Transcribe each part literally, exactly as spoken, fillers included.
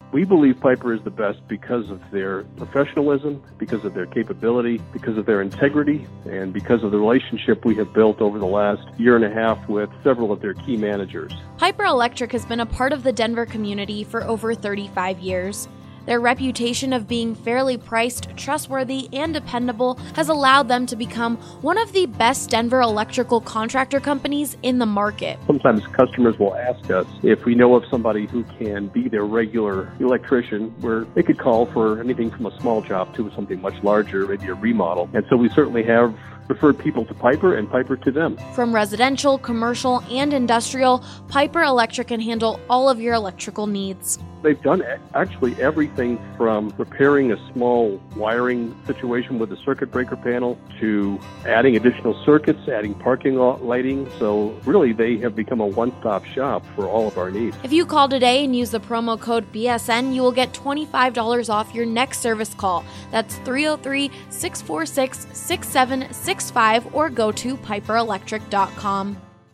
We believe Piper is the best because of their professionalism, because of their capability, because of their integrity, and because of the relationship we have built over the last year and a half with several of their key managers. Piper Electric has been a part of the Denver community for over thirty-five years. Their reputation of being fairly priced, trustworthy, and dependable has allowed them to become one of the best Denver electrical contractor companies in the market. Sometimes customers will ask us if we know of somebody who can be their regular electrician, where they could call for anything from a small job to something much larger, maybe a remodel. And so we certainly have referred people to Piper and Piper to them. From residential, commercial, and industrial, Piper Electric can handle all of your electrical needs. They've done actually everything from repairing a small wiring situation with a circuit breaker panel to adding additional circuits, adding parking lot lighting. So really, they have become a one-stop shop for all of our needs. If you call today and use the promo code B S N, you will get twenty-five dollars off your next service call. That's three oh three, six four six, six seven six five or go to piper electric dot com.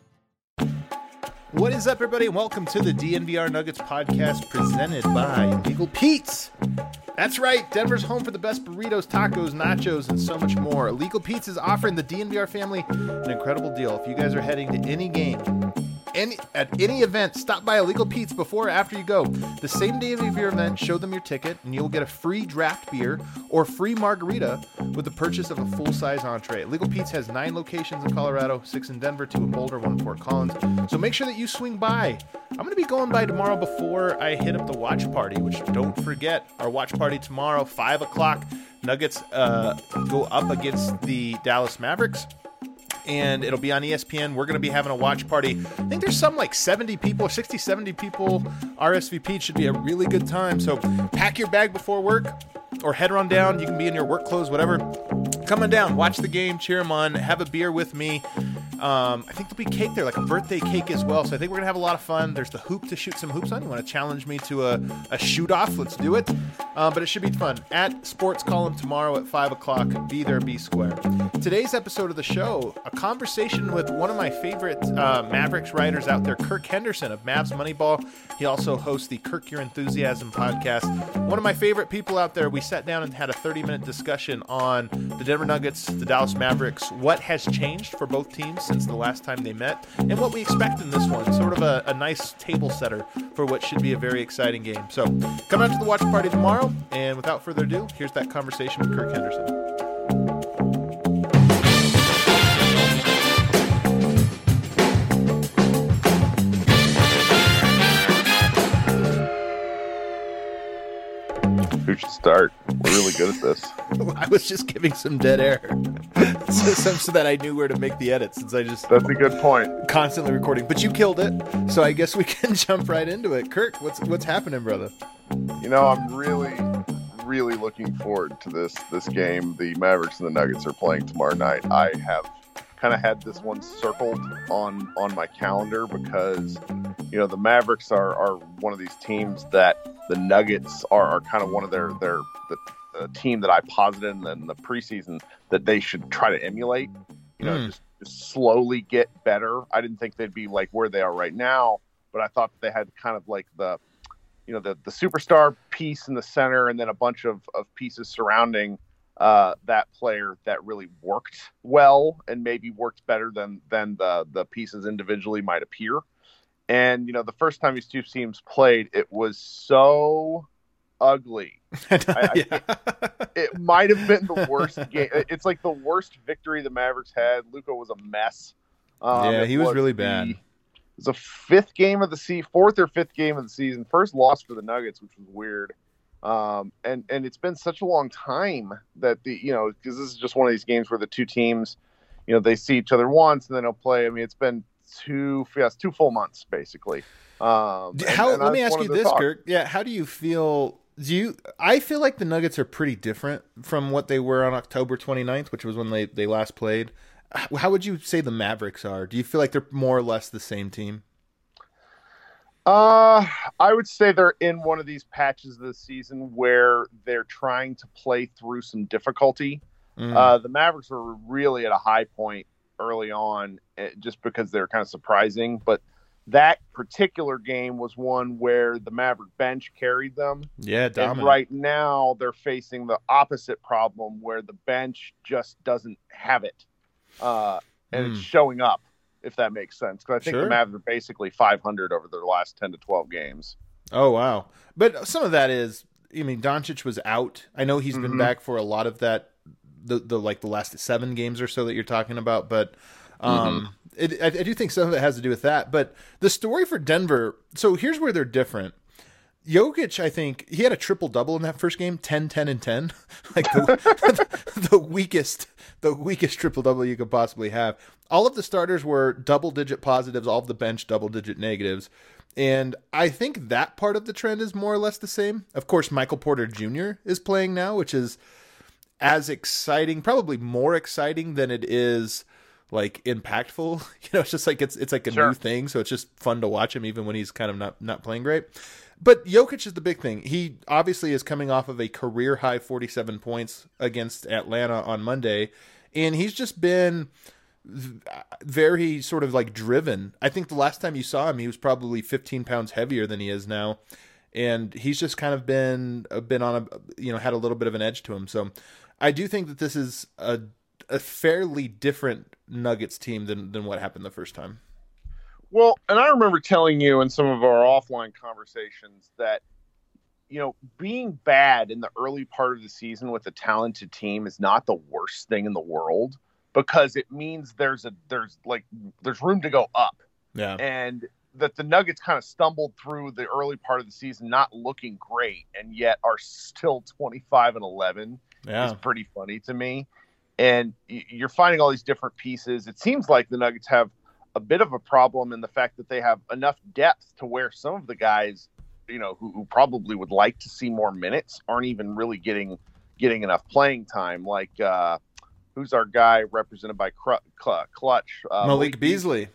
What is up, everybody, and welcome to the D N V R Nuggets podcast presented by Legal Pete's. That's right, Denver's home for the best burritos, tacos, nachos, and so much more. Legal Pete's is offering the D N V R family an incredible deal. If you guys are heading to any game, any at any event, stop by a Legal Pete's before or after you go. The same day of your event, show them your ticket, and you'll get a free draft beer or free margarita with the purchase of a full-size entree. Legal Pete's has nine locations in Colorado, six in Denver, two in Boulder, one in Fort Collins. So make sure that you swing by. I'm going to be going by tomorrow before I hit up the watch party, which don't forget, our watch party tomorrow, five o'clock. Nuggets uh, go up against the Dallas Mavericks, and it'll be on E S P N. We're going to be having a watch party. I think there's some like seventy people, sixty, seventy people R S V P. It should be a really good time. So pack your bag before work or head on down. You can be in your work clothes, whatever. Come on down, watch the game, cheer them on, have a beer with me. Um, I think there'll be cake there, like a birthday cake as well. So I think we're going to have a lot of fun. There's the hoop to shoot some hoops on. You want to challenge me to a, a shoot-off? Let's do it. Uh, but it should be fun. At Sports Column tomorrow at five o'clock. Be there, be square. Today's episode of the show, a conversation with one of my favorite uh, Mavericks writers out there, Kirk Henderson of Mavs Moneyball. He also hosts the Kirk Your Enthusiasm podcast. One of my favorite people out there. We sat down and had a thirty-minute discussion on the Denver Nuggets, the Dallas Mavericks, what has changed for both teams since the last time they met, and what we expect in this one. Sort of a, a nice table setter for what should be a very exciting game. So come out to the watch party tomorrow, and without further ado, here's that conversation with Kirk Henderson. Who should start? We're really good at this. I was just giving some dead air so, so, so that I knew where to make the edits, since I just That's a good point. Constantly recording. But you killed it, so I guess we can jump right into it. Kirk, what's what's happening, brother? You know, I'm really, really looking forward to this this game. The Mavericks and the Nuggets are playing tomorrow night. I have kind of had this one circled on on my calendar because, you know, the Mavericks are, are one of these teams that the Nuggets are, are kind of one of their their the, the team that I posited in the, in the preseason that they should try to emulate. You know, mm. just, just slowly get better. I didn't think they'd be like where they are right now, but I thought they had kind of like the, you know, the the superstar piece in the center, and then a bunch of, of pieces surrounding uh, that player that really worked well and maybe worked better than than the the pieces individually might appear. And, you know, the first time these two teams played, it was so ugly. I, yeah. I, it might have been the worst game. It's like the worst victory the Mavericks had. Luka was a mess. Um, yeah, he was, was really the, bad. It was a fifth game of the season, fourth or fifth game of the season. First loss for the Nuggets, which was weird. Um, and, and it's been such a long time that the, you know, because this is just one of these games where the two teams, you know, they see each other once and then they'll play. I mean, it's been two yes two full months basically. Um, how and, and let me ask you this, talk. Kirk. Yeah, how do you feel? Do you? I feel like the Nuggets are pretty different from what they were on October twenty-ninth, which was when they they last played. How would you say the Mavericks are? Do you feel like they're more or less the same team? Uh, I would say they're in one of these patches of the season where they're trying to play through some difficulty. Mm. Uh, the Mavericks were really at a high point early on, just because they're kind of surprising. But that particular game was one where the Maverick bench carried them. Yeah, dominant. And right now they're facing the opposite problem where the bench just doesn't have it. Uh, and mm. it's showing up, if that makes sense. Because I think sure. the Mavs are basically five hundred over their last ten to twelve games. Oh, wow. But some of that is, I mean, Doncic was out. I know he's mm-hmm. been back for a lot of that, the, the like the last seven games or so that you're talking about. But um, mm-hmm. it, I, I do think some of it has to do with that. But the story for Denver, so here's where they're different. Jokic, I think, he had a triple-double in that first game, ten, ten, and ten. Like the, the weakest the weakest triple-double you could possibly have. All of the starters were double-digit positives, all of the bench double-digit negatives. And I think that part of the trend is more or less the same. Of course, Michael Porter Junior is playing now, which is as exciting, probably more exciting than it is like impactful. You know, it's just like it's it's like a sure. new thing, so it's just fun to watch him even when he's kind of not not playing great. But Jokic is the big thing. He obviously is coming off of a career high forty-seven points against Atlanta on Monday, and he's just been very sort of like driven. I think the last time you saw him, he was probably fifteen pounds heavier than he is now. And he's just kind of been, been on a, you know, had a little bit of an edge to him. So I do think that this is a, a fairly different Nuggets team than, than what happened the first time. Well, and I remember telling you in some of our offline conversations that, you know, being bad in the early part of the season with a talented team is not the worst thing in the world. Because it means there's a there's like there's room to go up, yeah, and that the Nuggets kind of stumbled through the early part of the season, not looking great, and yet are still twenty-five and eleven. Yeah, is pretty funny to me. And you're finding all these different pieces. It seems like the Nuggets have a bit of a problem in the fact that they have enough depth to where some of the guys, you know, who, who probably would like to see more minutes aren't even really getting getting enough playing time, like. Uh, Who's our guy represented by Clutch? Uh, Malik Beasley.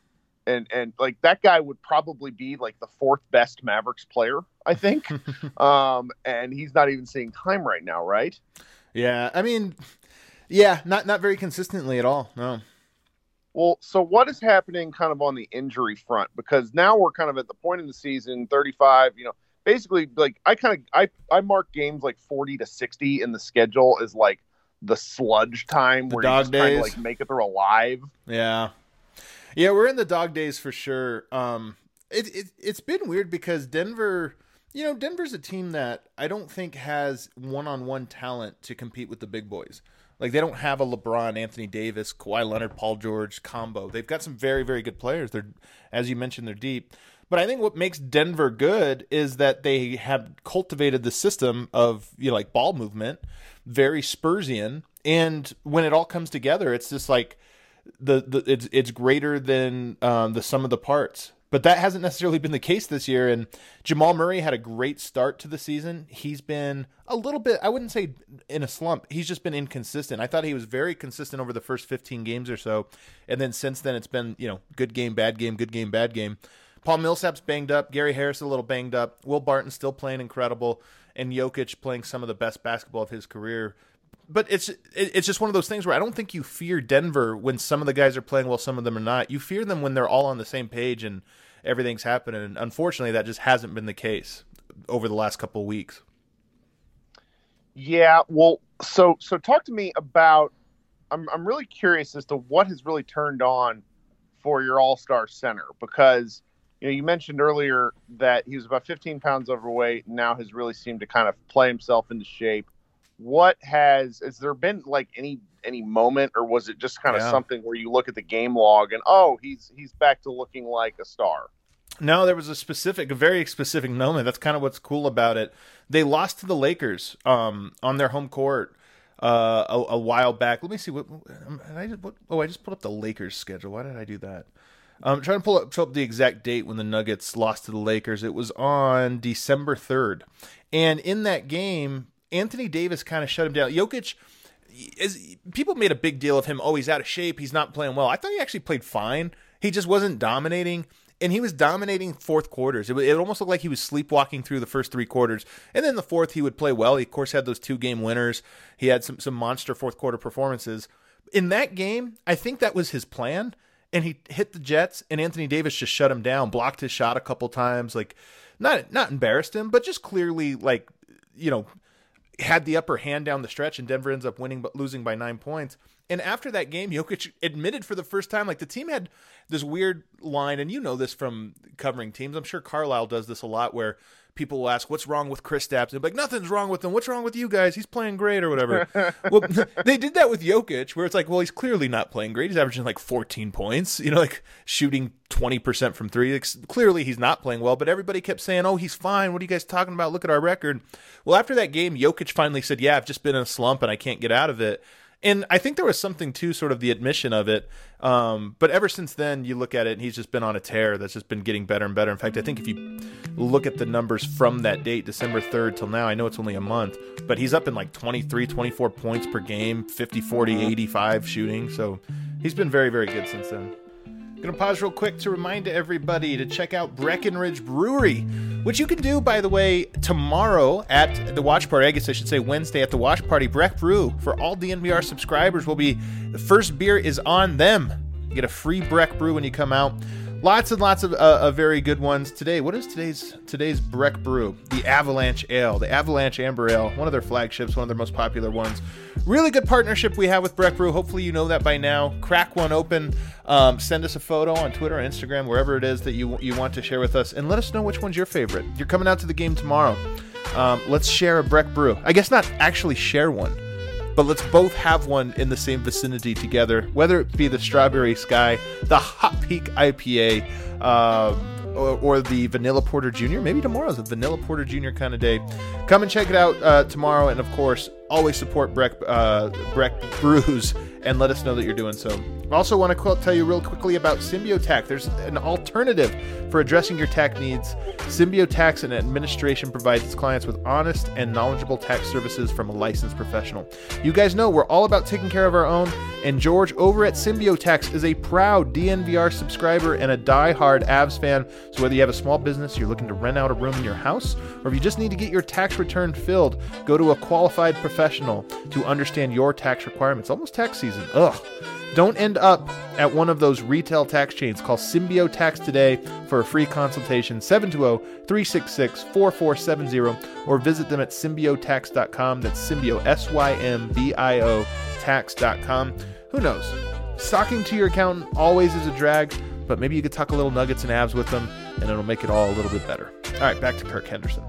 And and like that guy would probably be like the fourth best Mavericks player, I think. um, and he's not even seeing time right now, right? Yeah, I mean, yeah, not not very consistently at all. No. Well, so what is happening kind of on the injury front? Because now we're kind of at the point in the season, thirty-five, you know, basically like I kind of I I mark games like forty to sixty in the schedule as like the sludge time the where dog you're just days. trying to like make it through alive. Yeah. Yeah, we're in the dog days for sure. Um, it, it, it's been weird because Denver, you know, Denver's a team that I don't think has one-on-one talent to compete with the big boys. Like they don't have a LeBron, Anthony Davis, Kawhi Leonard, Paul George combo. They've got some very, very good players. They're, as you mentioned, they're deep. But I think what makes Denver good is that they have cultivated the system of, you know, like ball movement, very Spursian, and when it all comes together, it's just like the, the it's it's greater than um, the sum of the parts. But that hasn't necessarily been the case this year. And Jamal Murray had a great start to the season. He's been a little bit, I wouldn't say in a slump. He's just been inconsistent. I thought he was very consistent over the first fifteen games or so, and then since then it's been, you know, good game, bad game, good game, bad game. Paul Millsap's banged up. Gary Harris a little banged up. Will Barton's still playing incredible. And Jokic playing some of the best basketball of his career. But it's it's just one of those things where I don't think you fear Denver when some of the guys are playing well, some of them are not. You fear them when they're all on the same page and everything's happening. And unfortunately, that just hasn't been the case over the last couple of weeks. Yeah, well, so so talk to me about. I'm I'm really curious as to what has really turned on for your All-Star center, because you know you mentioned earlier that he was about fifteen pounds overweight and now has really seemed to kind of play himself into shape. What has has there been like any any moment, or was it just kind of yeah. something where you look at the game log and oh he's he's back to looking like a star? No, there was a specific, a very specific moment. That's kind of what's cool about it. They lost to the Lakers um, on their home court uh, a, a while back. Let me see what, I just, what. Oh, I just pulled up the Lakers schedule. Why did I do that? I'm trying to pull up, pull up the exact date when the Nuggets lost to the Lakers. It was on December third, and in that game, Anthony Davis kind of shut him down. Jokic, is, people made a big deal of him. Oh, he's out of shape. He's not playing well. I thought he actually played fine. He just wasn't dominating. And he was dominating fourth quarters. It, it almost looked like he was sleepwalking through the first three quarters. And then the fourth, he would play well. He, of course, had those two-game winners. He had some, some monster fourth-quarter performances. In that game, I think that was his plan. and he hit the Jets, and Anthony Davis just shut him down, blocked his shot a couple times, like not not embarrassed him, but just clearly like, you know, had the upper hand down the stretch, and Denver ends up winning but losing by nine points. And after that game, Jokic admitted for the first time, like the team had this weird line, and you know this from covering teams. I'm sure Carlisle does this a lot, where people will ask, what's wrong with Kristaps? And be like, nothing's wrong with him. What's wrong with you guys? He's playing great or whatever. Well, they did that with Jokic, where it's like, well, he's clearly not playing great. He's averaging like fourteen points, you know, like shooting twenty percent from three. Like, clearly he's not playing well, but everybody kept saying, oh, he's fine. What are you guys talking about? Look at our record. Well, after that game, Jokic finally said, yeah, I've just been in a slump and I can't get out of it. And I think there was something to sort of the admission of it. Um, but ever since then, you look at it, and he's just been on a tear that's just been getting better and better. In fact, I think if you look at the numbers from that date, December third till now, I know it's only a month, but he's up in like twenty-three, twenty-four points per game, fifty, forty, eighty-five shooting. So he's been very, very good since then. Going to pause real quick to remind everybody to check out Breckenridge Brewery, which you can do, by the way, tomorrow at the watch party. I guess I should say Wednesday at the watch party. Breck Brew, for all D N V R subscribers, will be the first beer is on them. You get a free Breck Brew when you come out. Lots and lots of, uh, of very good ones today. What is today's today's Breck Brew? The Avalanche Ale, the Avalanche Amber Ale, one of their flagships, one of their most popular ones. Really good partnership we have with Breck Brew. Hopefully you know that by now. Crack one open. Um, send us a photo on Twitter or Instagram, wherever it is that you you want to share with us, and let us know which one's your favorite. You're coming out to the game tomorrow. Um, let's share a Breck Brew. I guess not actually share one, but let's both have one in the same vicinity together, whether it be the Strawberry Sky, the Hot Peak I P A, uh, or, or the Vanilla Porter Junior Maybe tomorrow's a Vanilla Porter Junior kind of day. Come and check it out uh, tomorrow, and of course, always support Breck, uh, Breck Brews, and let us know that you're doing so. I also want to tell you real quickly about SymbioTax. There's an alternative for addressing your tax needs. SymbioTax and Administration provides its clients with honest and knowledgeable tax services from a licensed professional. You guys know we're all about taking care of our own, and George over at SymbioTax is a proud D N V R subscriber and a die-hard Avs fan. So whether you have a small business, you're looking to rent out a room in your house, or if you just need to get your tax return filled, go to a qualified professional to understand your tax requirements. Almost tax season. Ugh. Don't end up at one of those retail tax chains. Call SymbioTax today for a free consultation, seven two zero, three six six, four four seven zero, or visit them at symbiotax dot com. That's Symbio, S Y M B I O, tax dot com. Who knows? Talking to your accountant always is a drag, but maybe you could talk a little Nuggets and Avs with them, and it'll make it all a little bit better. All right, back to Kirk Henderson.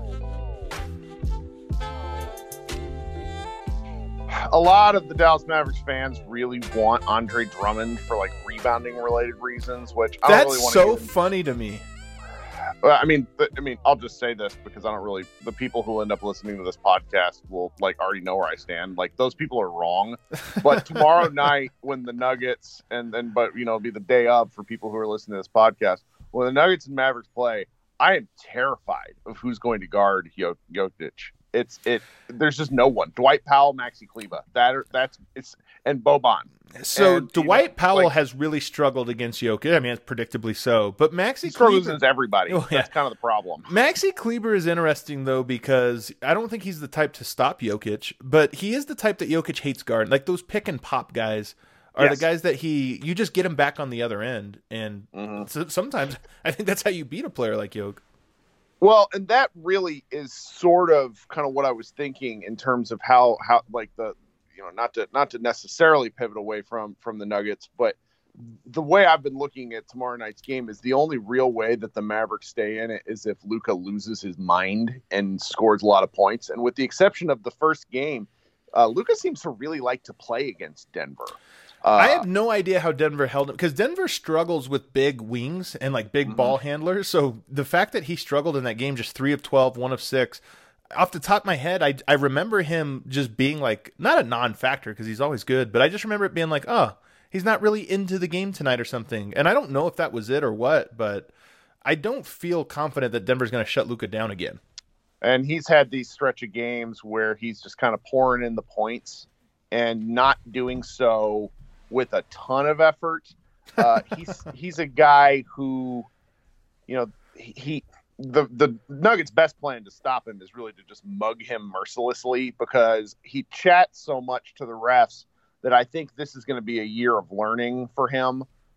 A lot of the Dallas Mavericks fans really want Andre Drummond for like rebounding related reasons, which I don't That's really want so to funny to me. Well, I mean, th- I mean, I'll just say this because I don't really. The people who end up listening to this podcast will like already know where I stand. Like those people are wrong. But tomorrow night, when the Nuggets and then, but you know, it'll be the day of for people who are listening to this podcast. When the Nuggets and Mavericks play, I am terrified of who's going to guard Jok- Jokic. It's it. There's just no one. Dwight Powell, Maxi Kleber. That are, that's it's and Boban. So and, Dwight you know, Powell like, has really struggled against Jokic. I mean, it's predictably so. But Maxi he struggles Kleber, against everybody. Oh, yeah. That's kind of the problem. Maxi Kleber is interesting though because I don't think he's the type to stop Jokic, but he is the type that Jokic hates guard. Like those pick and pop guys are yes. the guys that he you just get him back on the other end, and mm-hmm. so sometimes I think that's how you beat a player like Jokic. Well, and that really is sort of kind of what I was thinking in terms of how, how like the, you know, not to not to necessarily pivot away from from the Nuggets, but the way I've been looking at tomorrow night's game is the only real way that the Mavericks stay in it is if Luka loses his mind and scores a lot of points. And with the exception of the first game, uh, Luka seems to really like to play against Denver. Uh, I have no idea how Denver held him because Denver struggles with big wings and like big mm-hmm. ball handlers. So the fact that he struggled in that game, just three of twelve, one of six, off the top of my head, I I remember him just being like not a non-factor because he's always good, but I just remember it being like, oh, he's not really into the game tonight or something. And I don't know if that was it or what, but I don't feel confident that Denver's going to shut Luka down again. And he's had these stretch of games where he's just kind of pouring in the points and not doing so with a ton of effort. Uh, he's he's a guy who, you know, he the the Nuggets' best plan to stop him is really to just mug him mercilessly because he chats so much to the refs that I think this is going to be a year of learning for him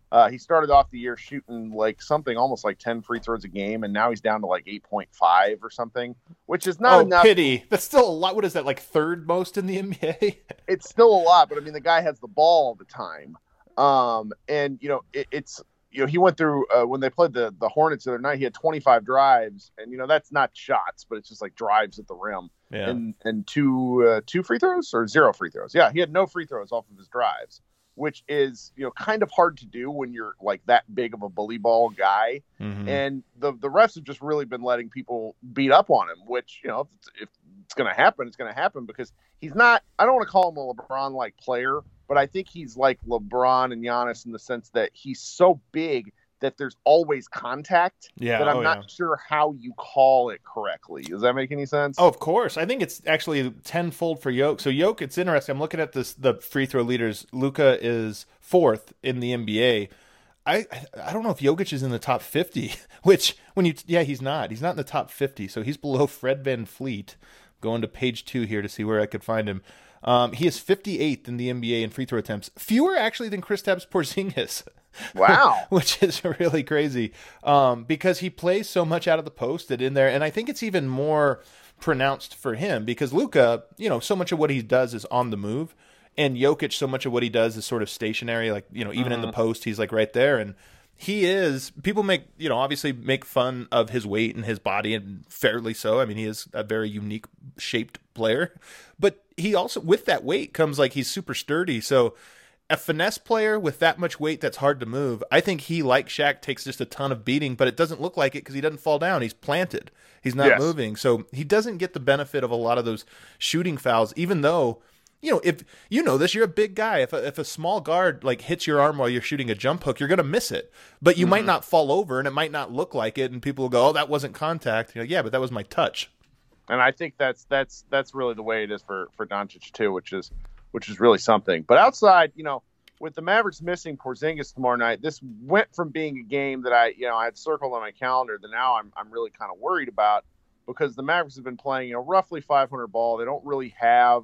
Uh, he started off the year shooting like something almost like ten free throws a game, and now he's down to like eight point five or something, which is not oh, enough. Pity. That's still a lot. What is that, like third most in the N B A? It's still a lot, but I mean, the guy has the ball all the time. Um, and, you know, it, it's, you know, he went through uh, when they played the, the Hornets the other night, he had twenty-five drives, and, you know, that's not shots, but it's just like drives at the rim. Yeah. And, and two, uh, two free throws or zero free throws. Yeah. He had no free throws off of his drives, which is, you know, kind of hard to do when you're like that big of a bully ball guy. Mm-hmm. And the, the refs have just really been letting people beat up on him, which, you know, if it's, if it's going to happen, it's going to happen because he's not, I don't want to call him a LeBron-like player, but I think he's like LeBron and Giannis in the sense that he's so big that there's always contact yeah, that I'm oh, not yeah. sure how you call it correctly. Does that make any sense? Oh, of course. I think it's actually tenfold for Jokic. So Jokic, it's interesting. I'm looking at this, the free throw leaders. Luka is fourth in the N B A. I I don't know if Jokic is in the top fifty, which when you, yeah, he's not. He's not in the top fifty. So he's below Fred VanVleet. Going to page two here to see where I could find him. Um, he is fifty-eighth in the N B A in free throw attempts, fewer actually than Kristaps Porzingis. Wow, which is really crazy um, because he plays so much out of the post that in there, and I think it's even more pronounced for him because Luka, you know, so much of what he does is on the move, and Jokic, so much of what he does is sort of stationary. Like, you know, even mm-hmm. in the post, he's like right there, and he is. People make, you know, obviously make fun of his weight and his body, and fairly so. I mean, he is a very unique shaped player, but he also, with that weight comes like he's super sturdy. So a finesse player with that much weight that's hard to move, I think he, like Shaq, takes just a ton of beating, but it doesn't look like it because he doesn't fall down. He's planted. He's not yes. moving. So he doesn't get the benefit of a lot of those shooting fouls, even though, you know, if you know this, you're a big guy. If a, if a small guard like hits your arm while you're shooting a jump hook, you're going to miss it, but you mm-hmm. might not fall over and it might not look like it. And people will go, oh, that wasn't contact. You're like, yeah, but that was my touch. And I think that's that's that's really the way it is for for Doncic too, which is which is really something. But outside, you know, with the Mavericks missing Porzingis tomorrow night, this went from being a game that I, you know, I had circled on my calendar that now I'm I'm really kind of worried about because the Mavericks have been playing, you know, roughly five hundred ball. They don't really have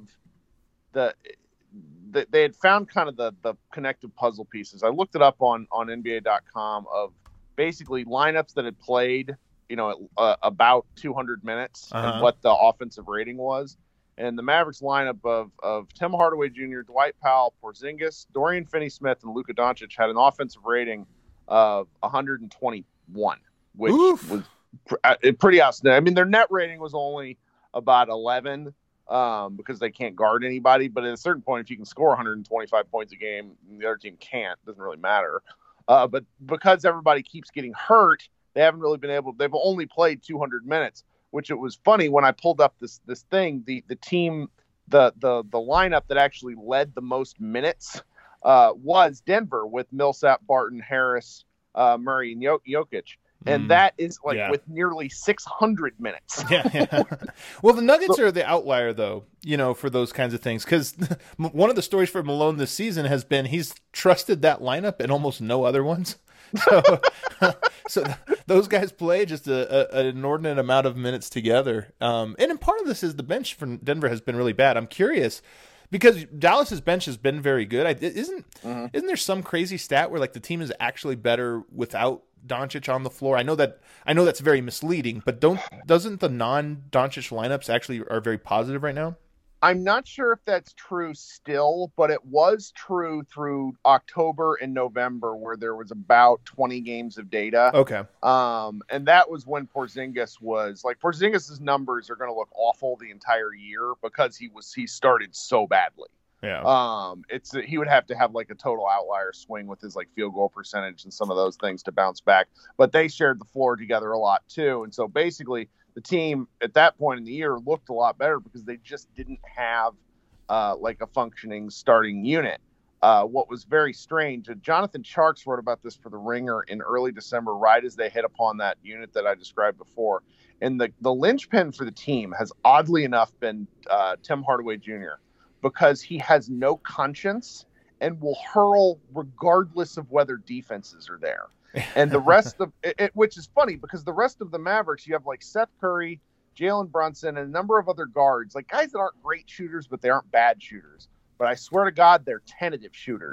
the, the they had found kind of the the connective puzzle pieces. I looked it up on on N B A dot com of basically lineups that had played, you know, uh, about two hundred minutes uh-huh. and what the offensive rating was. And the Mavericks lineup of, of Tim Hardaway Junior, Dwight Powell, Porzingis, Dorian Finney-Smith, and Luka Doncic had an offensive rating of one hundred twenty-one, which Oof. was pr- pretty outstanding. I mean, their net rating was only about eleven um, because they can't guard anybody. But at a certain point, if you can score one hundred twenty-five points a game and the other team can't, it doesn't really matter. Uh, but because everybody keeps getting hurt, they haven't really been able – they've only played two hundred minutes. Which it was funny when I pulled up this this thing, the the team, the the the lineup that actually led the most minutes uh, was Denver with Millsap, Barton, Harris, uh, Murray, and Jokic, and mm, that is like yeah. with nearly six hundred minutes. yeah, yeah. Well, the Nuggets so, are the outlier, though, you know, for those kinds of things, because one of the stories for Malone this season has been he's trusted that lineup and almost no other ones. So, so those guys play just a, a, an inordinate amount of minutes together. Um, and in part of this is the bench for Denver has been really bad. I'm curious because Dallas's bench has been very good. I, isn't mm-hmm. isn't there some crazy stat where like the team is actually better without Doncic on the floor? I know that I know that's very misleading, but don't doesn't the non-Doncic lineups actually are very positive right now? I'm not sure if that's true still, but it was true through October and November where there was about twenty games of data. Okay. Um, and that was when Porzingis was like Porzingis' numbers are going to look awful the entire year because he was he started so badly. Yeah. Um, it's he would have to have like a total outlier swing with his like field goal percentage and some of those things to bounce back. But they shared the floor together a lot too, and so basically the team at that point in the year looked a lot better because they just didn't have uh, like a functioning starting unit. Uh, what was very strange, uh, Jonathan Tjarks wrote about this for The Ringer in early December, right as they hit upon that unit that I described before. And the, the linchpin for the team has oddly enough been uh, Tim Hardaway Junior because he has no conscience and will hurl regardless of whether defenses are there. And the rest of it, it, which is funny because the rest of the Mavericks, you have like Seth Curry, Jalen Brunson, and a number of other guards, like guys that aren't great shooters, but they aren't bad shooters. But I swear to God, they're tentative shooters.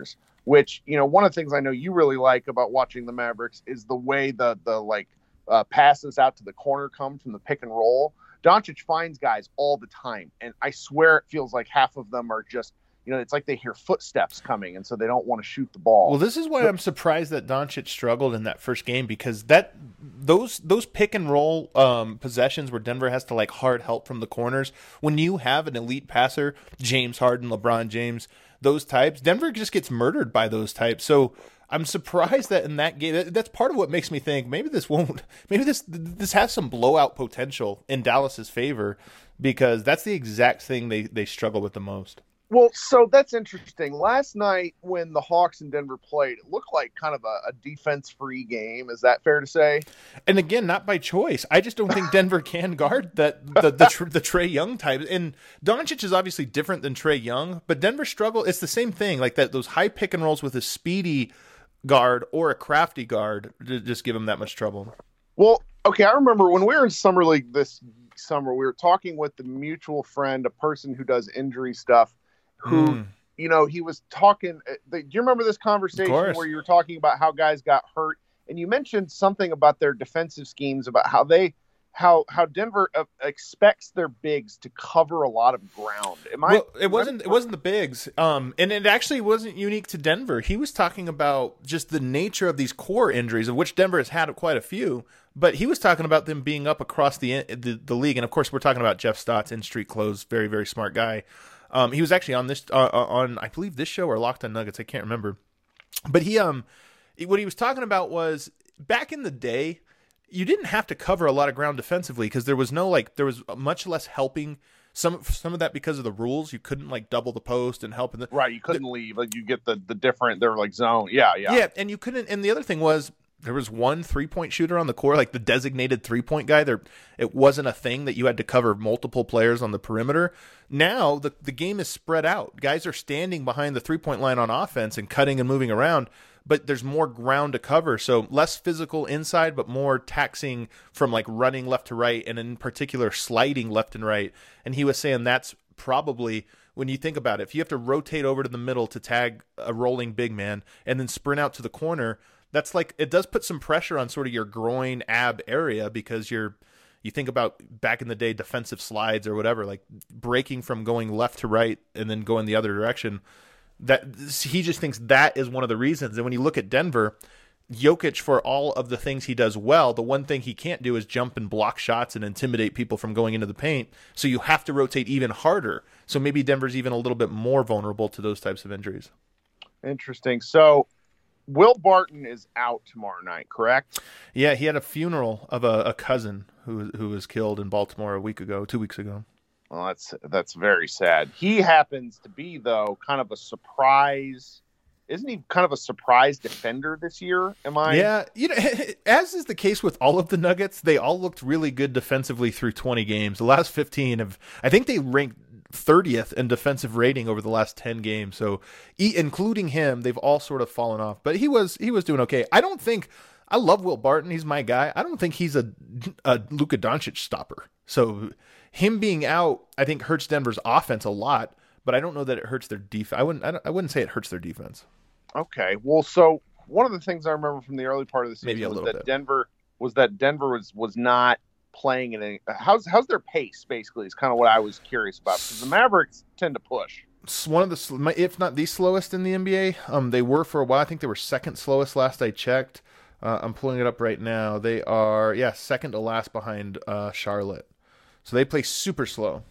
which, you know, one of the things I know you really like about watching the Mavericks is the way the, the like, uh, passes out to the corner come from the pick and roll. Doncic finds guys all the time, and I swear it feels like half of them are just, you know, it's like they hear footsteps coming, and so they don't want to shoot the ball. Well, this is why I'm surprised that Doncic struggled in that first game, because that those those pick and roll um, possessions where Denver has to like hard help from the corners, when you have an elite passer, James Harden, LeBron James, those types, Denver just gets murdered by those types. So I'm surprised that in that game, that's part of what makes me think maybe this won't, maybe this this has some blowout potential in Dallas's favor, because that's the exact thing they, they struggle with the most. Well, so that's interesting. Last night when the Hawks and Denver played, it looked like kind of a, a defense-free game. Is that fair to say? And again, not by choice. I just don't think Denver can guard that the the, the, the Trae Young type. And Doncic is obviously different than Trae Young, but Denver struggle. It's the same thing, like that. Those high pick and rolls with a speedy guard or a crafty guard to just give him that much trouble. Well, okay, I remember when we were in Summer League this summer, we were talking with the mutual friend, a person who does injury stuff, who, mm. you know, he was talking. Do you remember this conversation where you were talking about how guys got hurt, and you mentioned something about their defensive schemes, about how they, how how Denver uh, expects their bigs to cover a lot of ground. Am I? Well, it wasn't. It wasn't the bigs, um, and it actually wasn't unique to Denver. He was talking about just the nature of these core injuries, of which Denver has had quite a few. But he was talking about them being up across the the, the league, and of course, we're talking about Jeff Stotts, in street clothes, very very smart guy. Um, he was actually on this uh, on I believe this show or Locked on Nuggets. I can't remember, but he um what he was talking about was back in the day, you didn't have to cover a lot of ground defensively because there was no like there was much less helping. Some some of that because of the rules, you couldn't like double the post and help in the right. You couldn't the, leave. Like you get the the different. They're like zone. Yeah, yeah, yeah. And you couldn't. And the other thing was, there was one three-point shooter on the court, like the designated three-point guy. There, it wasn't a thing that you had to cover multiple players on the perimeter. Now the the game is spread out. Guys are standing behind the three-point line on offense and cutting and moving around, but there's more ground to cover. So less physical inside, but more taxing from like running left to right, and in particular sliding left and right. And he was saying that's probably, when you think about it, if you have to rotate over to the middle to tag a rolling big man and then sprint out to the corner, that's like, it does put some pressure on sort of your groin ab area, because you're, you think about back in the day, defensive slides or whatever, like breaking from going left to right and then going the other direction. That he just thinks that is one of the reasons. And when you look at Denver, Jokic, for all of the things he does well, the one thing he can't do is jump and block shots and intimidate people from going into the paint. So you have to rotate even harder. So maybe Denver's even a little bit more vulnerable to those types of injuries. Interesting. So Will Barton is out tomorrow night, correct? Yeah, he had a funeral of a, a cousin who who was killed in Baltimore a week ago, two weeks ago. Well, that's that's very sad. He happens to be, though, kind of a surprise. Isn't he kind of a surprise defender this year? Am I? Yeah, you know, as is the case with all of the Nuggets, they all looked really good defensively through twenty games. The last fifteen have, I think they ranked thirtieth in defensive rating over the last ten games. So, including him, they've all sort of fallen off. But he was he was doing okay. I don't think. I love Will Barton. He's my guy. I don't think he's a, a Luka Doncic stopper. So him being out, I think, hurts Denver's offense a lot. But I don't know that it hurts their defense. I wouldn't. I, I wouldn't say it hurts their defense. Okay. Well, so one of the things I remember from the early part of the season Maybe a was little that bit. Denver was that Denver was was not playing in any. How's how's their pace? Basically, is kind of what I was curious about, because the Mavericks tend to push. It's one of the, if not the slowest in the N B A. Um, they were for a while. I think they were second slowest last I checked. Uh, I'm pulling it up right now. They are, yeah, second to last behind uh, Charlotte. So they play super slow.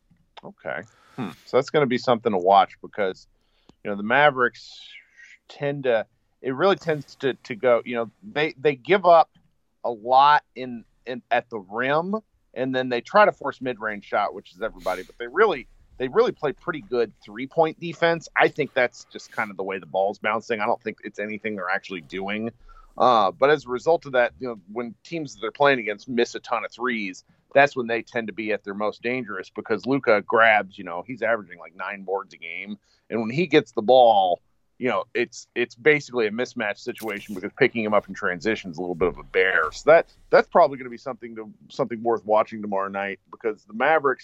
Okay. Hmm. So that's going to be something to watch, because, you know, the Mavericks tend to, it really tends to, to go, you know, they, they give up a lot in, in at the rim, and then they try to force mid-range shot, which is everybody, but they really, they really play pretty good three-point defense. I think that's just kind of the way the ball's bouncing. I don't think it's anything they're actually doing. Uh, but as a result of that, you know, when teams that they're playing against miss a ton of threes, that's when they tend to be at their most dangerous, because Luka grabs, you know, he's averaging like nine boards a game. And when he gets the ball, you know, it's it's basically a mismatch situation, because picking him up in transition is a little bit of a bear. So that that's probably going to be something to something worth watching tomorrow night, because the Mavericks,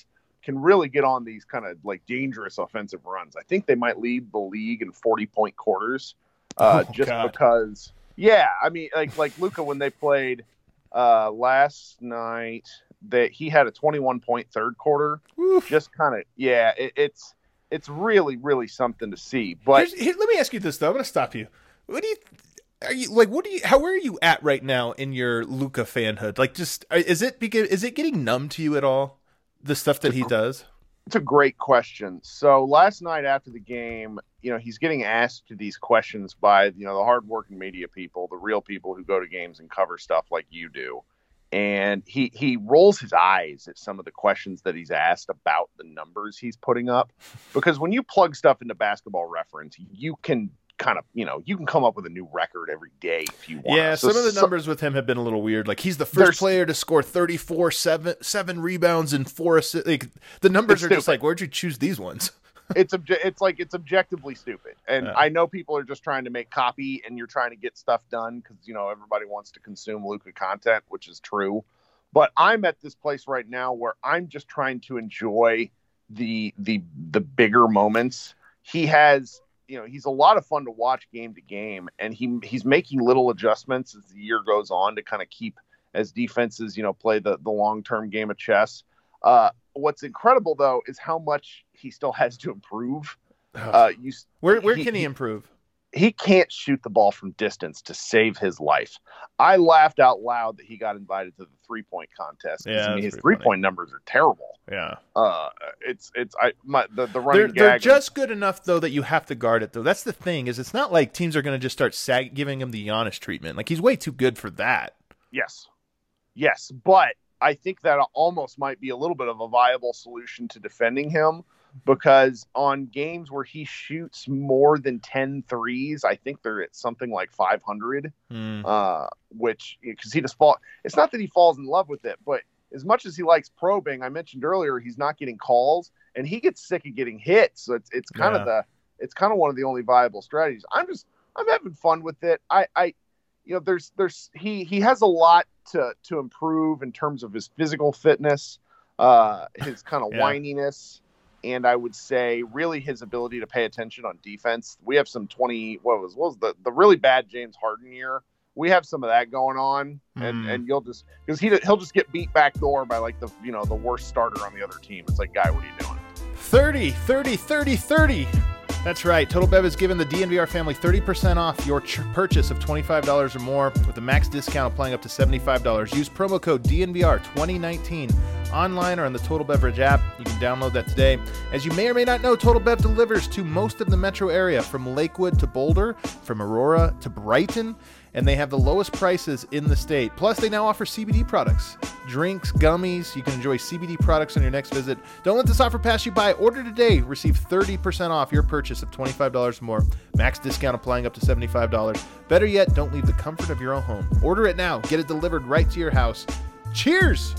can really get on these kind of like dangerous offensive runs. I think they might lead the league in forty point quarters, uh, oh, just God. because. Yeah, I mean, like like Luka when they played uh, last night, that he had a twenty-one point third quarter. Oof. Just kind of yeah, it, it's it's really really something to see. But here, let me ask you this though. I'm going to stop you. What do you? Are you like? What do you? How? Where are you at right now in your Luka fanhood? Like, just is it because is it getting numb to you at all? The stuff that he does? It's a great question. So last night after the game, you know, he's getting asked these questions by, you know, the hardworking media people, the real people who go to games and cover stuff like you do. And he, he rolls his eyes at some of the questions that he's asked about the numbers he's putting up. Because when you plug stuff into Basketball Reference, you can kind of, you know, you can come up with a new record every day if you want. Yeah, so, some of the so, numbers with him have been a little weird. Like, he's the first player to score thirty-four, seven, seven rebounds and four assists. Like, the numbers are stupid. just like, where'd you choose these ones? it's obje- it's like it's objectively stupid. And yeah. I know people are just trying to make copy and you're trying to get stuff done because, you know, everybody wants to consume Luka content, which is true. But I'm at this place right now where I'm just trying to enjoy the the the bigger moments. He has, you know, he's a lot of fun to watch game to game, and he he's making little adjustments as the year goes on to kind of keep as defenses, you know, play the, the long-term game of chess. Uh, what's incredible, though, is how much he still has to improve. Uh, you, where where he, can he improve? He can't shoot the ball from distance to save his life. I laughed out loud that he got invited to the three-point contest. Yeah, I mean, his funny. three-point numbers are terrible. Yeah. Uh, it's it's I my the, the running They're, gag. they're just good enough though that you have to guard it though. That's the thing is it's not like teams are going to just start sag- giving him the Giannis treatment. Like he's way too good for that. Yes, yes, but I think that almost might be a little bit of a viable solution to defending him because on games where he shoots more than ten threes, I think they're at something like five hundred. Mm. Uh, which because he just fall. It's not that he falls in love with it, but as much as he likes probing, I mentioned earlier, he's not getting calls and he gets sick of getting hit. So it's, it's kind Yeah. of the, it's kind of one of the only viable strategies. I'm just, I'm having fun with it. I, I, you know, there's, there's, he, he has a lot to, to improve in terms of his physical fitness, uh, his kind of Yeah. whininess. And I would say really his ability to pay attention on defense. We have some twenty, what was, what was the, the really bad James Harden year. We have some of that going on, and, Mm. and you'll just because he he'll just get beat back door by like the you know the worst starter on the other team. It's like, guy, what are you doing? thirty, thirty, thirty, thirty. That's right. Total Bev has given the D N V R family thirty percent off your ch- purchase of twenty-five dollars or more with a max discount applying up to seventy-five dollars. Use promo code D N V R twenty nineteen online or on the Total Beverage app. You can download that today. As you may or may not know, Total Bev delivers to most of the metro area, from Lakewood to Boulder, from Aurora to Brighton, and they have the lowest prices in the state. Plus, they now offer C B D products, drinks, gummies. You can enjoy C B D products on your next visit. Don't let this offer pass you by. Order today. Receive thirty percent off your purchase of twenty-five dollars or more. Max discount applying up to seventy-five dollars. Better yet, don't leave the comfort of your own home. Order it now. Get it delivered right to your house. Cheers!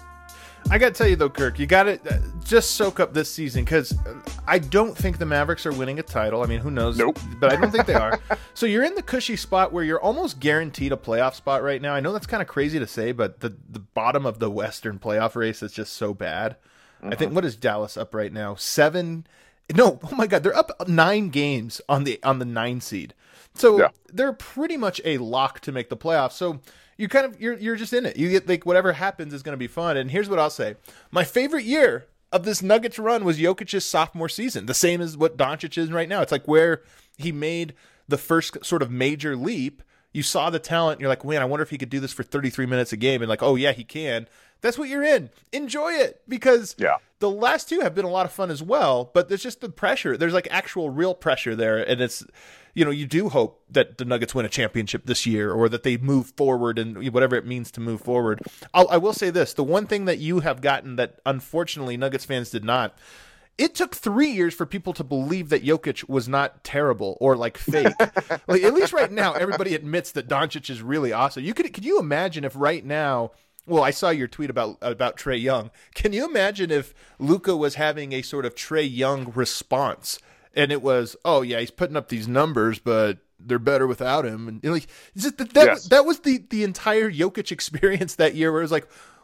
I got to tell you, though, Kirk, you got to uh, just soak up this season because I don't think the Mavericks are winning a title. I mean, who knows? Nope. But I don't think they are. So you're in the cushy spot where you're almost guaranteed a playoff spot right now. I know that's kind of crazy to say, but the, the bottom of the Western playoff race is just so bad. Uh-huh. I think, what is Dallas up right now? Seven? No, oh my God, they're up nine games on the on the nine seed. So Yeah. they're pretty much a lock to make the playoffs. So you kind of you're you're just in it. You get like whatever happens is going to be fun. And here's what I'll say: my favorite year of this Nuggets run was Jokic's sophomore season, the same as what Doncic is right now. It's like where he made the first sort of major leap. You saw the talent. And you're like, man, I wonder if he could do this for thirty-three minutes a game. And like, oh yeah, he can. That's what you're in. Enjoy it because Yeah. the last two have been a lot of fun as well. But there's just the pressure. There's like actual real pressure there, and it's. You know, you do hope that the Nuggets win a championship this year or that they move forward and whatever it means to move forward. I'll, I will say this. The one thing that you have gotten that unfortunately Nuggets fans did not, it took three years for people to believe that Jokic was not terrible or like fake. Like at least right now, everybody admits that Doncic is really awesome. You could, could you imagine if right now, well, I saw your tweet about about Trae Young. Can you imagine if Luka was having a sort of Trae Young response? And it was, oh yeah, he's putting up these numbers, but they're better without him. And like, just that that, Yes. that was the the entire Jokic experience that year, where it was like,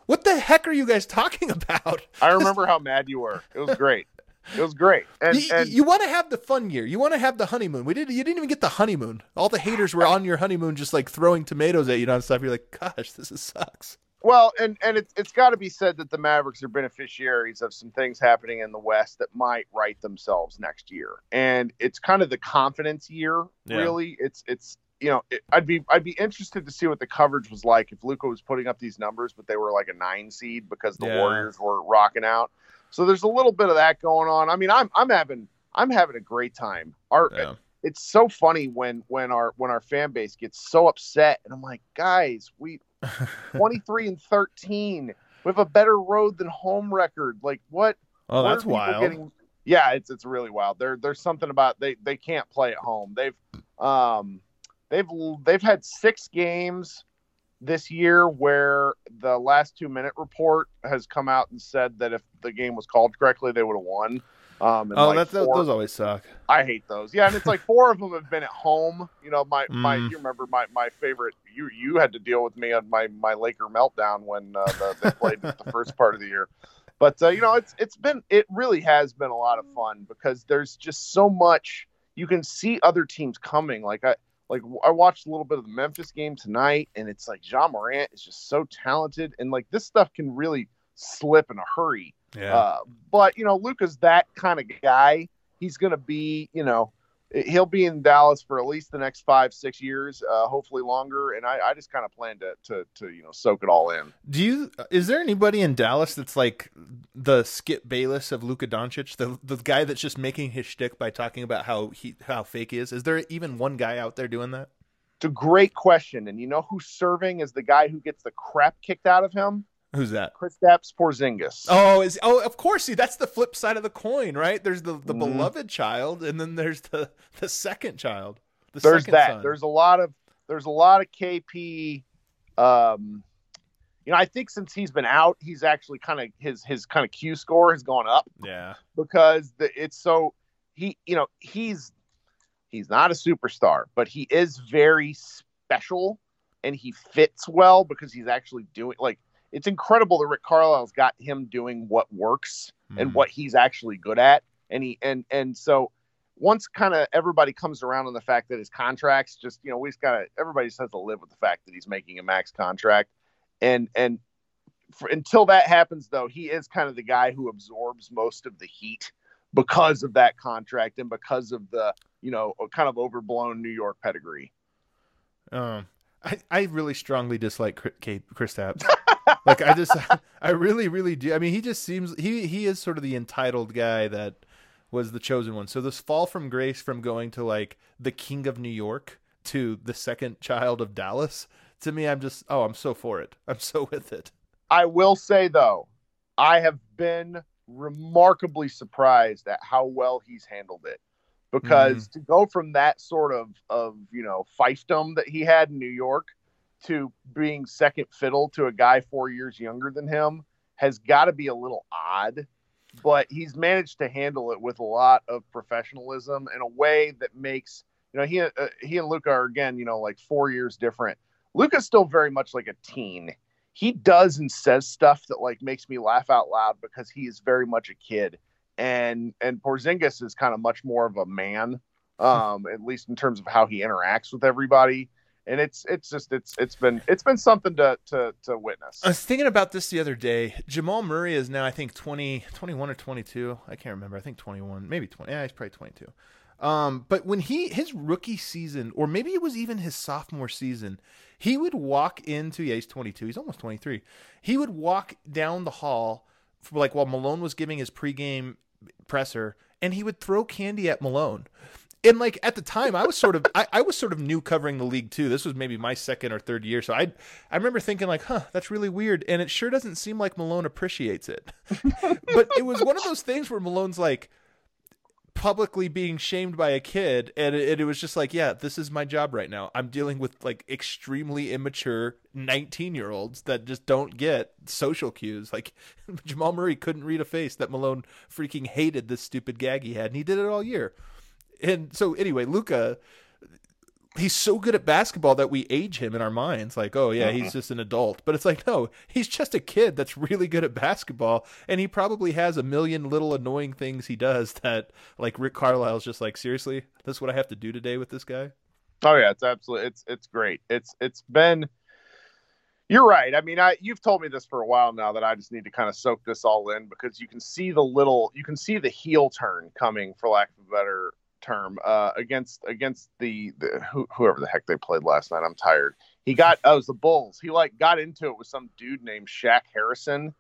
What the heck are you guys talking about? I remember how mad you were. It was great. It was great. And you, and you want to have the fun year. You want to have the honeymoon. We did. You didn't even get the honeymoon. All the haters were on your honeymoon, just like throwing tomatoes at you and stuff. You're like, gosh, this is, sucks. Well, and, and it's it's got to be said that the Mavericks are beneficiaries of some things happening in the West that might right themselves next year. And it's kind of the confidence year, Yeah. really. It's it's you know, it, I'd be I'd be interested to see what the coverage was like if Luka was putting up these numbers, but they were like a nine seed because the Yeah. Warriors were rocking out. So there's a little bit of that going on. I mean, I'm I'm having I'm having a great time. Our Yeah. It's so funny when when our when our fan base gets so upset, and I'm like, guys, we twenty-three and thirteen. We have a better road than home record. Like what? Oh, what that's are people wild. getting- Yeah, it's it's really wild. There there's something about they they can't play at home. They've um they've they've had six games this year where the last two minute report has come out and said that if the game was called correctly, they would have won. Um, and Oh, like that's, four- those always suck. I hate those. Yeah, and it's like four of them have been at home. You know, my my Mm. you remember my, my favorite. You you had to deal with me on my my Laker meltdown when uh, the, they played the first part of the year. But uh, you know, it's it's been it really has been a lot of fun because there's just so much you can see other teams coming. Like I like I watched a little bit of the Memphis game tonight, and it's like Ja Morant is just so talented, and like this stuff can really slip in a hurry. Yeah. Uh, but you know, Luka's that kind of guy. He's going to be, you know, he'll be in Dallas for at least the next five, six years, uh, hopefully longer. And I, I just kind of plan to, to, to, you know, soak it all in. Do you? Is there anybody in Dallas that's like the Skip Bayless of Luka Doncic, the the guy that's just making his shtick by talking about how he how fake he is? Is there even one guy out there doing that? It's a great question. And you know who's serving as the guy who gets the crap kicked out of him? Who's that? Kristaps Porzingis. Oh, is oh, of course. See, that's the flip side of the coin, right? There's the, the Mhm. beloved child, and then there's the the second child. The There's second that. son. There's a lot of there's a lot of K P. Um, you know, I think since he's been out, he's actually kind of his his kind of Q score has gone up yeah, because the, it's so he you know he's he's not a superstar, but he is very special and he fits well because he's actually doing like. It's incredible that Rick Carlisle's got him doing what works and Mhm. what he's actually good at. And he and and so once kind of everybody comes around on the fact that his contracts just, you know, we just gotta everybody just has to live with the fact that he's making a max contract. And and for, until that happens though, he is kind of the guy who absorbs most of the heat because of that contract and because of the, you know, kind of overblown New York pedigree. Um, I I really strongly dislike Kate Kristaps. Like I just, I really, really do. I mean, he just seems he he is sort of the entitled guy that was the chosen one. So this fall from grace from going to like the king of New York to the second child of Dallas. To me, I'm just oh, I'm so for it. I'm so with it. I will say though, I have been remarkably surprised at how well he's handled it. Because to go from that sort of of you know fiefdom that he had in New York to being second fiddle to a guy four years younger than him has got to be a little odd, but he's managed to handle it with a lot of professionalism in a way that makes, you know, he, uh, he and Luka are again, you know, like four years different. Luka's still very much like a teen. He does and says stuff that like makes me laugh out loud because he is very much a kid. And, and Porzingis is kind of much more of a man, um, at least in terms of how he interacts with everybody. And it's it's just it's it's been it's been something to to to witness. I was thinking about this the other day. Jamal Murray is now, I think, twenty, twenty-one or twenty-two. I can't remember. I think twenty-one, maybe twenty. Yeah, he's probably twenty-two. Um, but when he his rookie season, or maybe it was even his sophomore season, he would walk into yeah, he's twenty-two. He's almost twenty-three. He would walk down the hall, for like while Malone was giving his pregame presser, and he would throw candy at Malone. And like at the time, I was sort of I, I was sort of new covering the league too. This was maybe my second or third year, so I I remember thinking like, huh, that's really weird, and it sure doesn't seem like Malone appreciates it. But it was one of those things where Malone's like publicly being shamed by a kid, and it, it was just like, yeah, this is my job right now. I'm dealing with like extremely immature nineteen year olds that just don't get social cues. Like Jamal Murray couldn't read a face that Malone freaking hated this stupid gag he had, and he did it all year. And so anyway, Luka, he's so good at basketball that we age him in our minds. Like, oh yeah, he's just an adult. But it's like, no, he's just a kid that's really good at basketball. And he probably has a million little annoying things he does that, like, Rick Carlisle's just like, seriously, this is what I have to do today with this guy. Oh yeah, it's absolutely, it's, it's great. It's, it's been, you're right. I mean, I, you've told me this for a while now that I just need to kind of soak this all in, because you can see the little, you can see the heel turn coming, for lack of a better term, uh, against against the, the who, whoever the heck they played last night. I'm tired. He got oh, it was the Bulls. He like got into it with some dude named Shaq Harrison,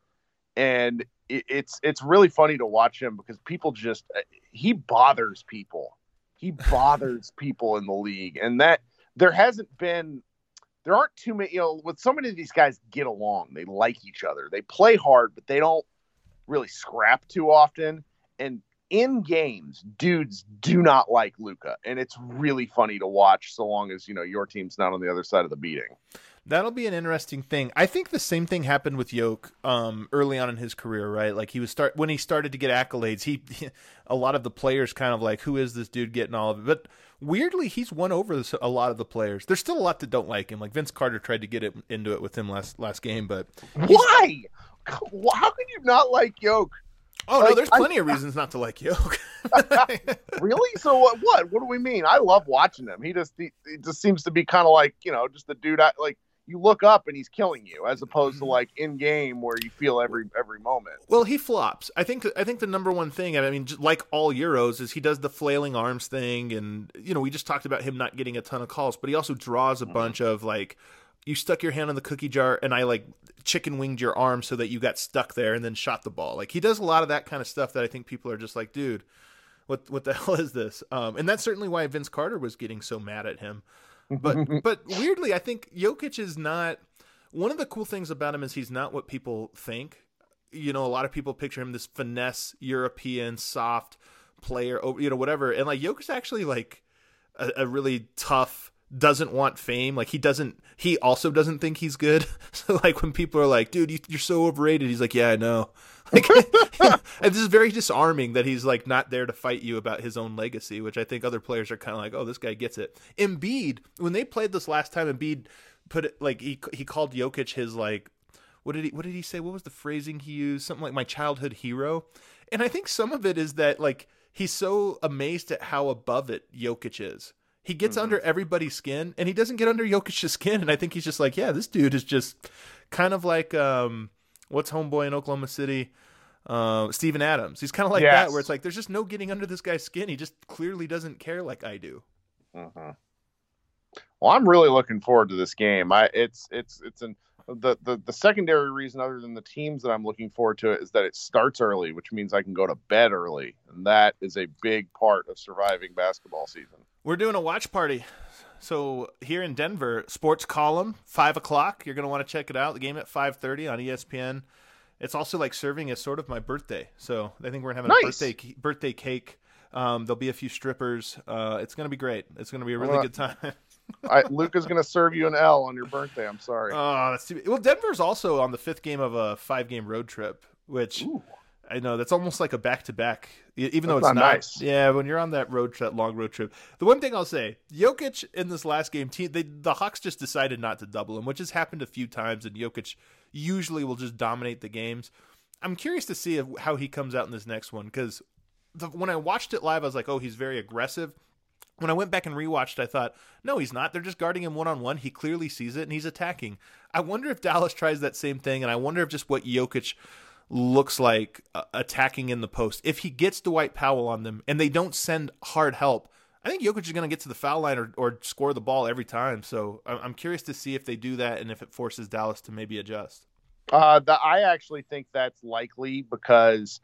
and it, it's it's really funny to watch him, because people just he bothers people. He bothers people in the league, and that there hasn't been. There aren't too many, you know, with so many of these guys get along. They like each other. They play hard, but they don't really scrap too often. And in games, dudes do not like Luka, and it's really funny to watch, so long as, you know, your team's not on the other side of the beating. That'll be an interesting thing. I think the same thing happened with Yoke um, early on in his career, right? Like he was start when he started to get accolades. He, a lot of the players kind of like, who is this dude getting all of it? But weirdly, he's won over this, a lot of the players. There's still a lot that don't like him. Like Vince Carter tried to get it into it with him last last game, but why? How can you not like Yoke? Oh like, no, there's plenty I, of reasons not to like Yoke. Really? So what? What? What do we mean? I love watching him. He just he, he just seems to be kind of like, you know, just the dude. I, like you look up and he's killing you, as opposed to like in game where you feel every every moment. Well, he flops. I think. I think the number one thing, I mean, just like all Euros, is he does the flailing arms thing, and you know, we just talked about him not getting a ton of calls, but he also draws a mm-hmm. bunch of like, you stuck your hand in the cookie jar and I like chicken winged your arm so that you got stuck there and then shot the ball. Like he does a lot of that kind of stuff that I think people are just like, dude, what what the hell is this? Um, and that's certainly why Vince Carter was getting so mad at him. But but weirdly, I think Jokic is not, one of the cool things about him is he's not what people think. You know, a lot of people picture him this finesse European soft player, you know, whatever. And like Jokic's actually like a, a really tough, doesn't want fame. Like he doesn't, he also doesn't think he's good. So like when people are like, dude, you, you're so overrated. He's like, yeah, I know. Like, and this is very disarming that he's like not there to fight you about his own legacy, which I think other players are kind of like, oh, this guy gets it. Embiid, when they played this last time, Embiid put it like, he, he called Jokic his like, what did he, what did he say? What was the phrasing he used? Something like my childhood hero. And I think some of it is that like, he's so amazed at how above it Jokic is. He gets mm-hmm. under everybody's skin, and he doesn't get under Jokic's skin. And I think he's just like, yeah, this dude is just kind of like, um, what's homeboy in Oklahoma City? Uh, Steven Adams. He's kind of like yes. that, where it's like, there's just no getting under this guy's skin. He just clearly doesn't care like I do. Mm-hmm. Well, I'm really looking forward to this game. I, it's, it's, it's an, the, the, the secondary reason, other than the teams that I'm looking forward to it, is that it starts early, which means I can go to bed early. And that is a big part of surviving basketball season. We're doing a watch party. So here in Denver, Sports Column, five o'clock. You're going to want to check it out. The game at five thirty on E S P N. It's also like serving as sort of my birthday. So I think we're having nice. a birthday birthday cake. Um, there'll be a few strippers. Uh, it's going to be great. It's going to be a really well, good time. I, Luka's going to serve you an L on your birthday. I'm sorry. Oh, that's too, well, Denver's also on the fifth game of a five-game road trip, which Ooh. I know that's almost like a back-to-back, even that's though it's not, not nice. Yeah, when you're on that road trip, long road trip. The one thing I'll say, Jokic in this last game, team, they, the Hawks just decided not to double him, which has happened a few times, and Jokic usually will just dominate the games. I'm curious to see if, how he comes out in this next one, because when I watched it live, I was like, oh, he's very aggressive. When I went back and rewatched, I thought, no, he's not. They're just guarding him one-on-one. He clearly sees it, and he's attacking. I wonder if Dallas tries that same thing, and I wonder if just what Jokic looks like uh, attacking in the post. If he gets Dwight Powell on them, and they don't send hard help, I think Jokic is going to get to the foul line or, or score the ball every time. So I'm curious to see if they do that and if it forces Dallas to maybe adjust. Uh, the, I actually think that's likely because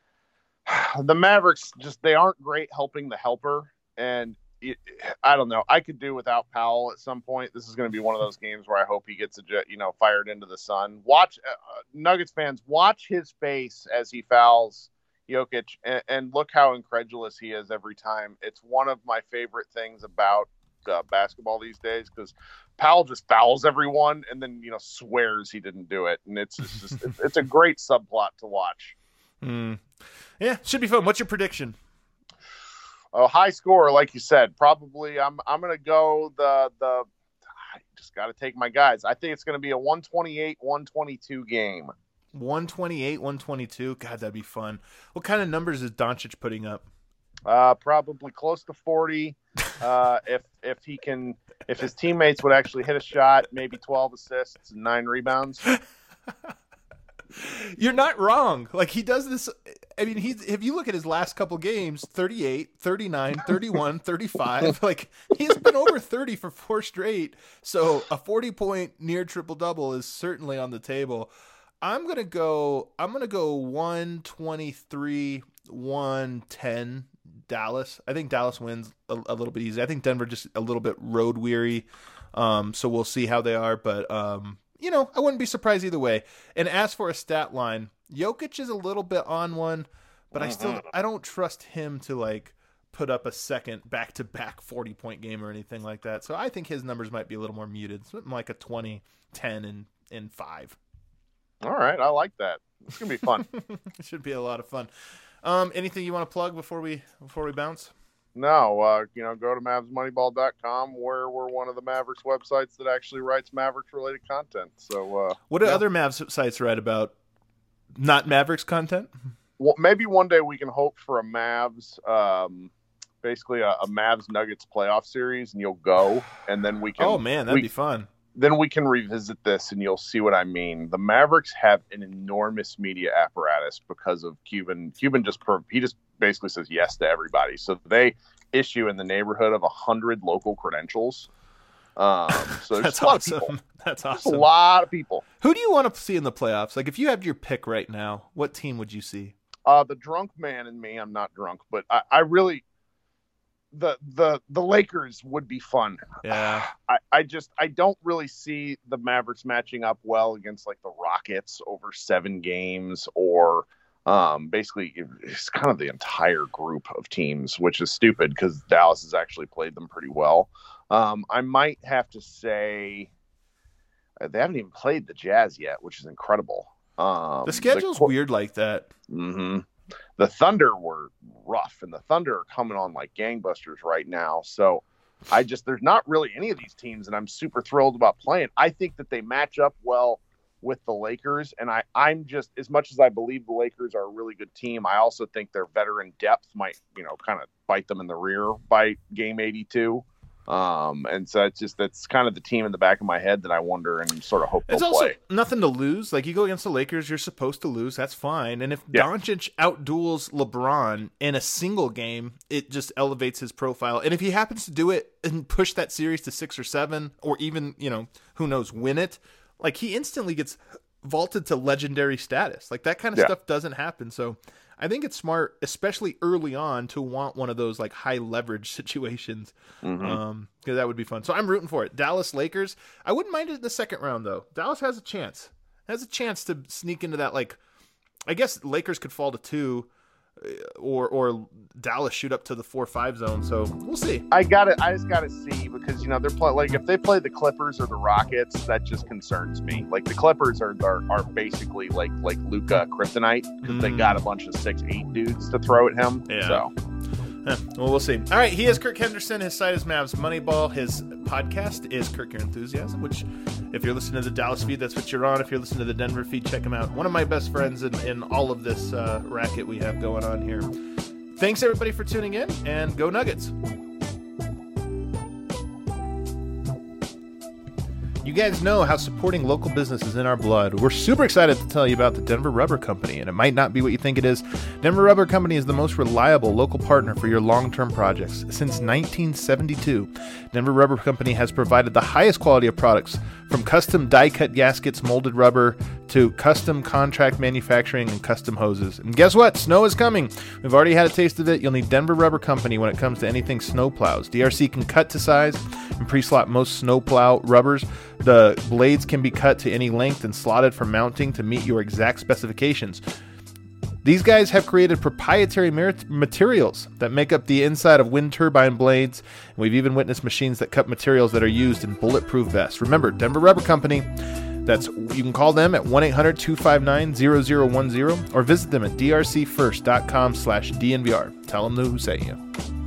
the Mavericks just, they aren't great helping the helper. And it, I don't know, I could do without Powell at some point. This is going to be one of those games where I hope he gets a jet, you know, fired into the sun. Watch uh, Nuggets fans, watch his face as he fouls Jokic and, and look how incredulous he is every time. It's one of my favorite things about uh, basketball these days, because Powell just fouls everyone and then, you know, swears he didn't do it. And it's just, just it's, it's a great subplot to watch. Mm. Yeah, should be fun. What's your prediction? a high score, like you said. Probably, I'm I'm gonna go the the. I just got to take my guys. I think it's gonna be a one twenty-eight one twenty-two game. one twenty-eight one twenty-two. God, that'd be fun. What kind of numbers is Doncic putting up? Uh, probably close to forty. Uh, if if he can, if his teammates would actually hit a shot, maybe twelve assists and nine rebounds. You're not wrong. Like, he does this. I mean, he's, if you look at his last couple games, thirty-eight, thirty-nine, thirty-one, thirty-five, like, he's been over thirty for four straight. So a forty point near triple double is certainly on the table. I'm going to go, I'm going to go one twenty-three, one ten Dallas. I think Dallas wins a, a little bit easy. I think Denver just a little bit road weary. Um, so we'll see how they are, but, um, you know, I wouldn't be surprised either way. And as for a stat line, Jokic is a little bit on one, but I still I don't trust him to like put up a second back-to-back forty-point game or anything like that. So I think his numbers might be a little more muted, something like a twenty, ten, and and five. All right, I like that. It's gonna be fun. It should be a lot of fun. Um, anything you want to plug before we before we bounce? No, uh, you know, go to Mavs Moneyball dot com, where we're one of the Mavericks websites that actually writes Mavericks-related content. So, uh, what do yeah. other Mavs sites write about? Not Mavericks content? Well, maybe one day we can hope for a Mavs, um, basically a, a Mavs Nuggets playoff series, and you'll go, and then we can. Oh man, that'd we, be fun. Then we can revisit this, and you'll see what I mean. The Mavericks have an enormous media apparatus because of Cuban. Cuban just he just basically says yes to everybody. So they issue in the neighborhood of a hundred local credentials. Um, so there's That's a lot awesome. of people. That's There's awesome. a lot of people. Who do you want to see in the playoffs? Like, if you had your pick right now, what team would you see? Uh, the drunk man in me. I'm not drunk, but I, I really. The the the Lakers would be fun. Yeah, I, I just I don't really see the Mavericks matching up well against like the Rockets over seven games, or um, basically it's kind of the entire group of teams, which is stupid because Dallas has actually played them pretty well. Um, I might have to say uh, they haven't even played the Jazz yet, which is incredible. Um, the schedule's the, weird like that. Mm-hmm. The Thunder were rough, and the Thunder are coming on like gangbusters right now. So I just, there's not really any of these teams that I'm super thrilled about playing. I think that they match up well with the Lakers, and I, I'm just, as much as I believe the Lakers are a really good team, I also think their veteran depth might, you know, kind of bite them in the rear by game eighty-two. Um, and so it's just, that's kind of the team in the back of my head that I wonder and sort of hope they'll It's also play. nothing to lose. Like, you go against the Lakers, you're supposed to lose. That's fine. And if Yeah. Doncic outduels LeBron in a single game, it just elevates his profile. And if he happens to do it and push that series to six or seven, or even, you know, who knows, win it, like, he instantly gets vaulted to legendary status. Like, that kind of Yeah. stuff doesn't happen. So I think it's smart, especially early on, to want one of those like high leverage situations. Mm-hmm. Um, because that would be fun. So I'm rooting for it. Dallas Lakers. I wouldn't mind it in the second round though. Dallas has a chance. Has a chance to sneak into that. Like, I guess Lakers could fall to two, or or Dallas shoot up to the four five zone. So we'll see. I got to I just got to see, because, you know, they're playing, like, if they play the Clippers or the Rockets, that just concerns me. Like, the Clippers are are, are basically like like Luka Kryptonite, because they Mm. got a bunch of six eight dudes to throw at him. Yeah. So Huh. Well, we'll see. All right, he is Kirk Henderson. His site is Mavs Moneyball. His podcast is Kirk Your Enthusiasm, which, if you're listening to the Dallas feed, that's what you're on. If you're listening to the Denver feed, check him out. One of my best friends in, in all of this uh, racket we have going on here. Thanks, everybody, for tuning in, and go Nuggets. You guys know how supporting local business is in our blood. We're super excited to tell you about the Denver Rubber Company, and it might not be what you think it is. Denver Rubber Company is the most reliable local partner for your long-term projects. Since nineteen seventy-two, Denver Rubber Company has provided the highest quality of products, from custom die-cut gaskets, molded rubber, to custom contract manufacturing and custom hoses. And guess what? Snow is coming. We've already had a taste of it. You'll need Denver Rubber Company when it comes to anything snow plows. D R C can cut to size and pre-slot most snow plow rubbers. The blades can be cut to any length and slotted for mounting to meet your exact specifications. These guys have created proprietary materials that make up the inside of wind turbine blades. We've even witnessed machines that cut materials that are used in bulletproof vests. Remember, Denver Rubber Company. That's, you can call them at one eight hundred two five nine zero zero one zero or visit them at drcfirst dot com slash DNVR. Tell them who sent you.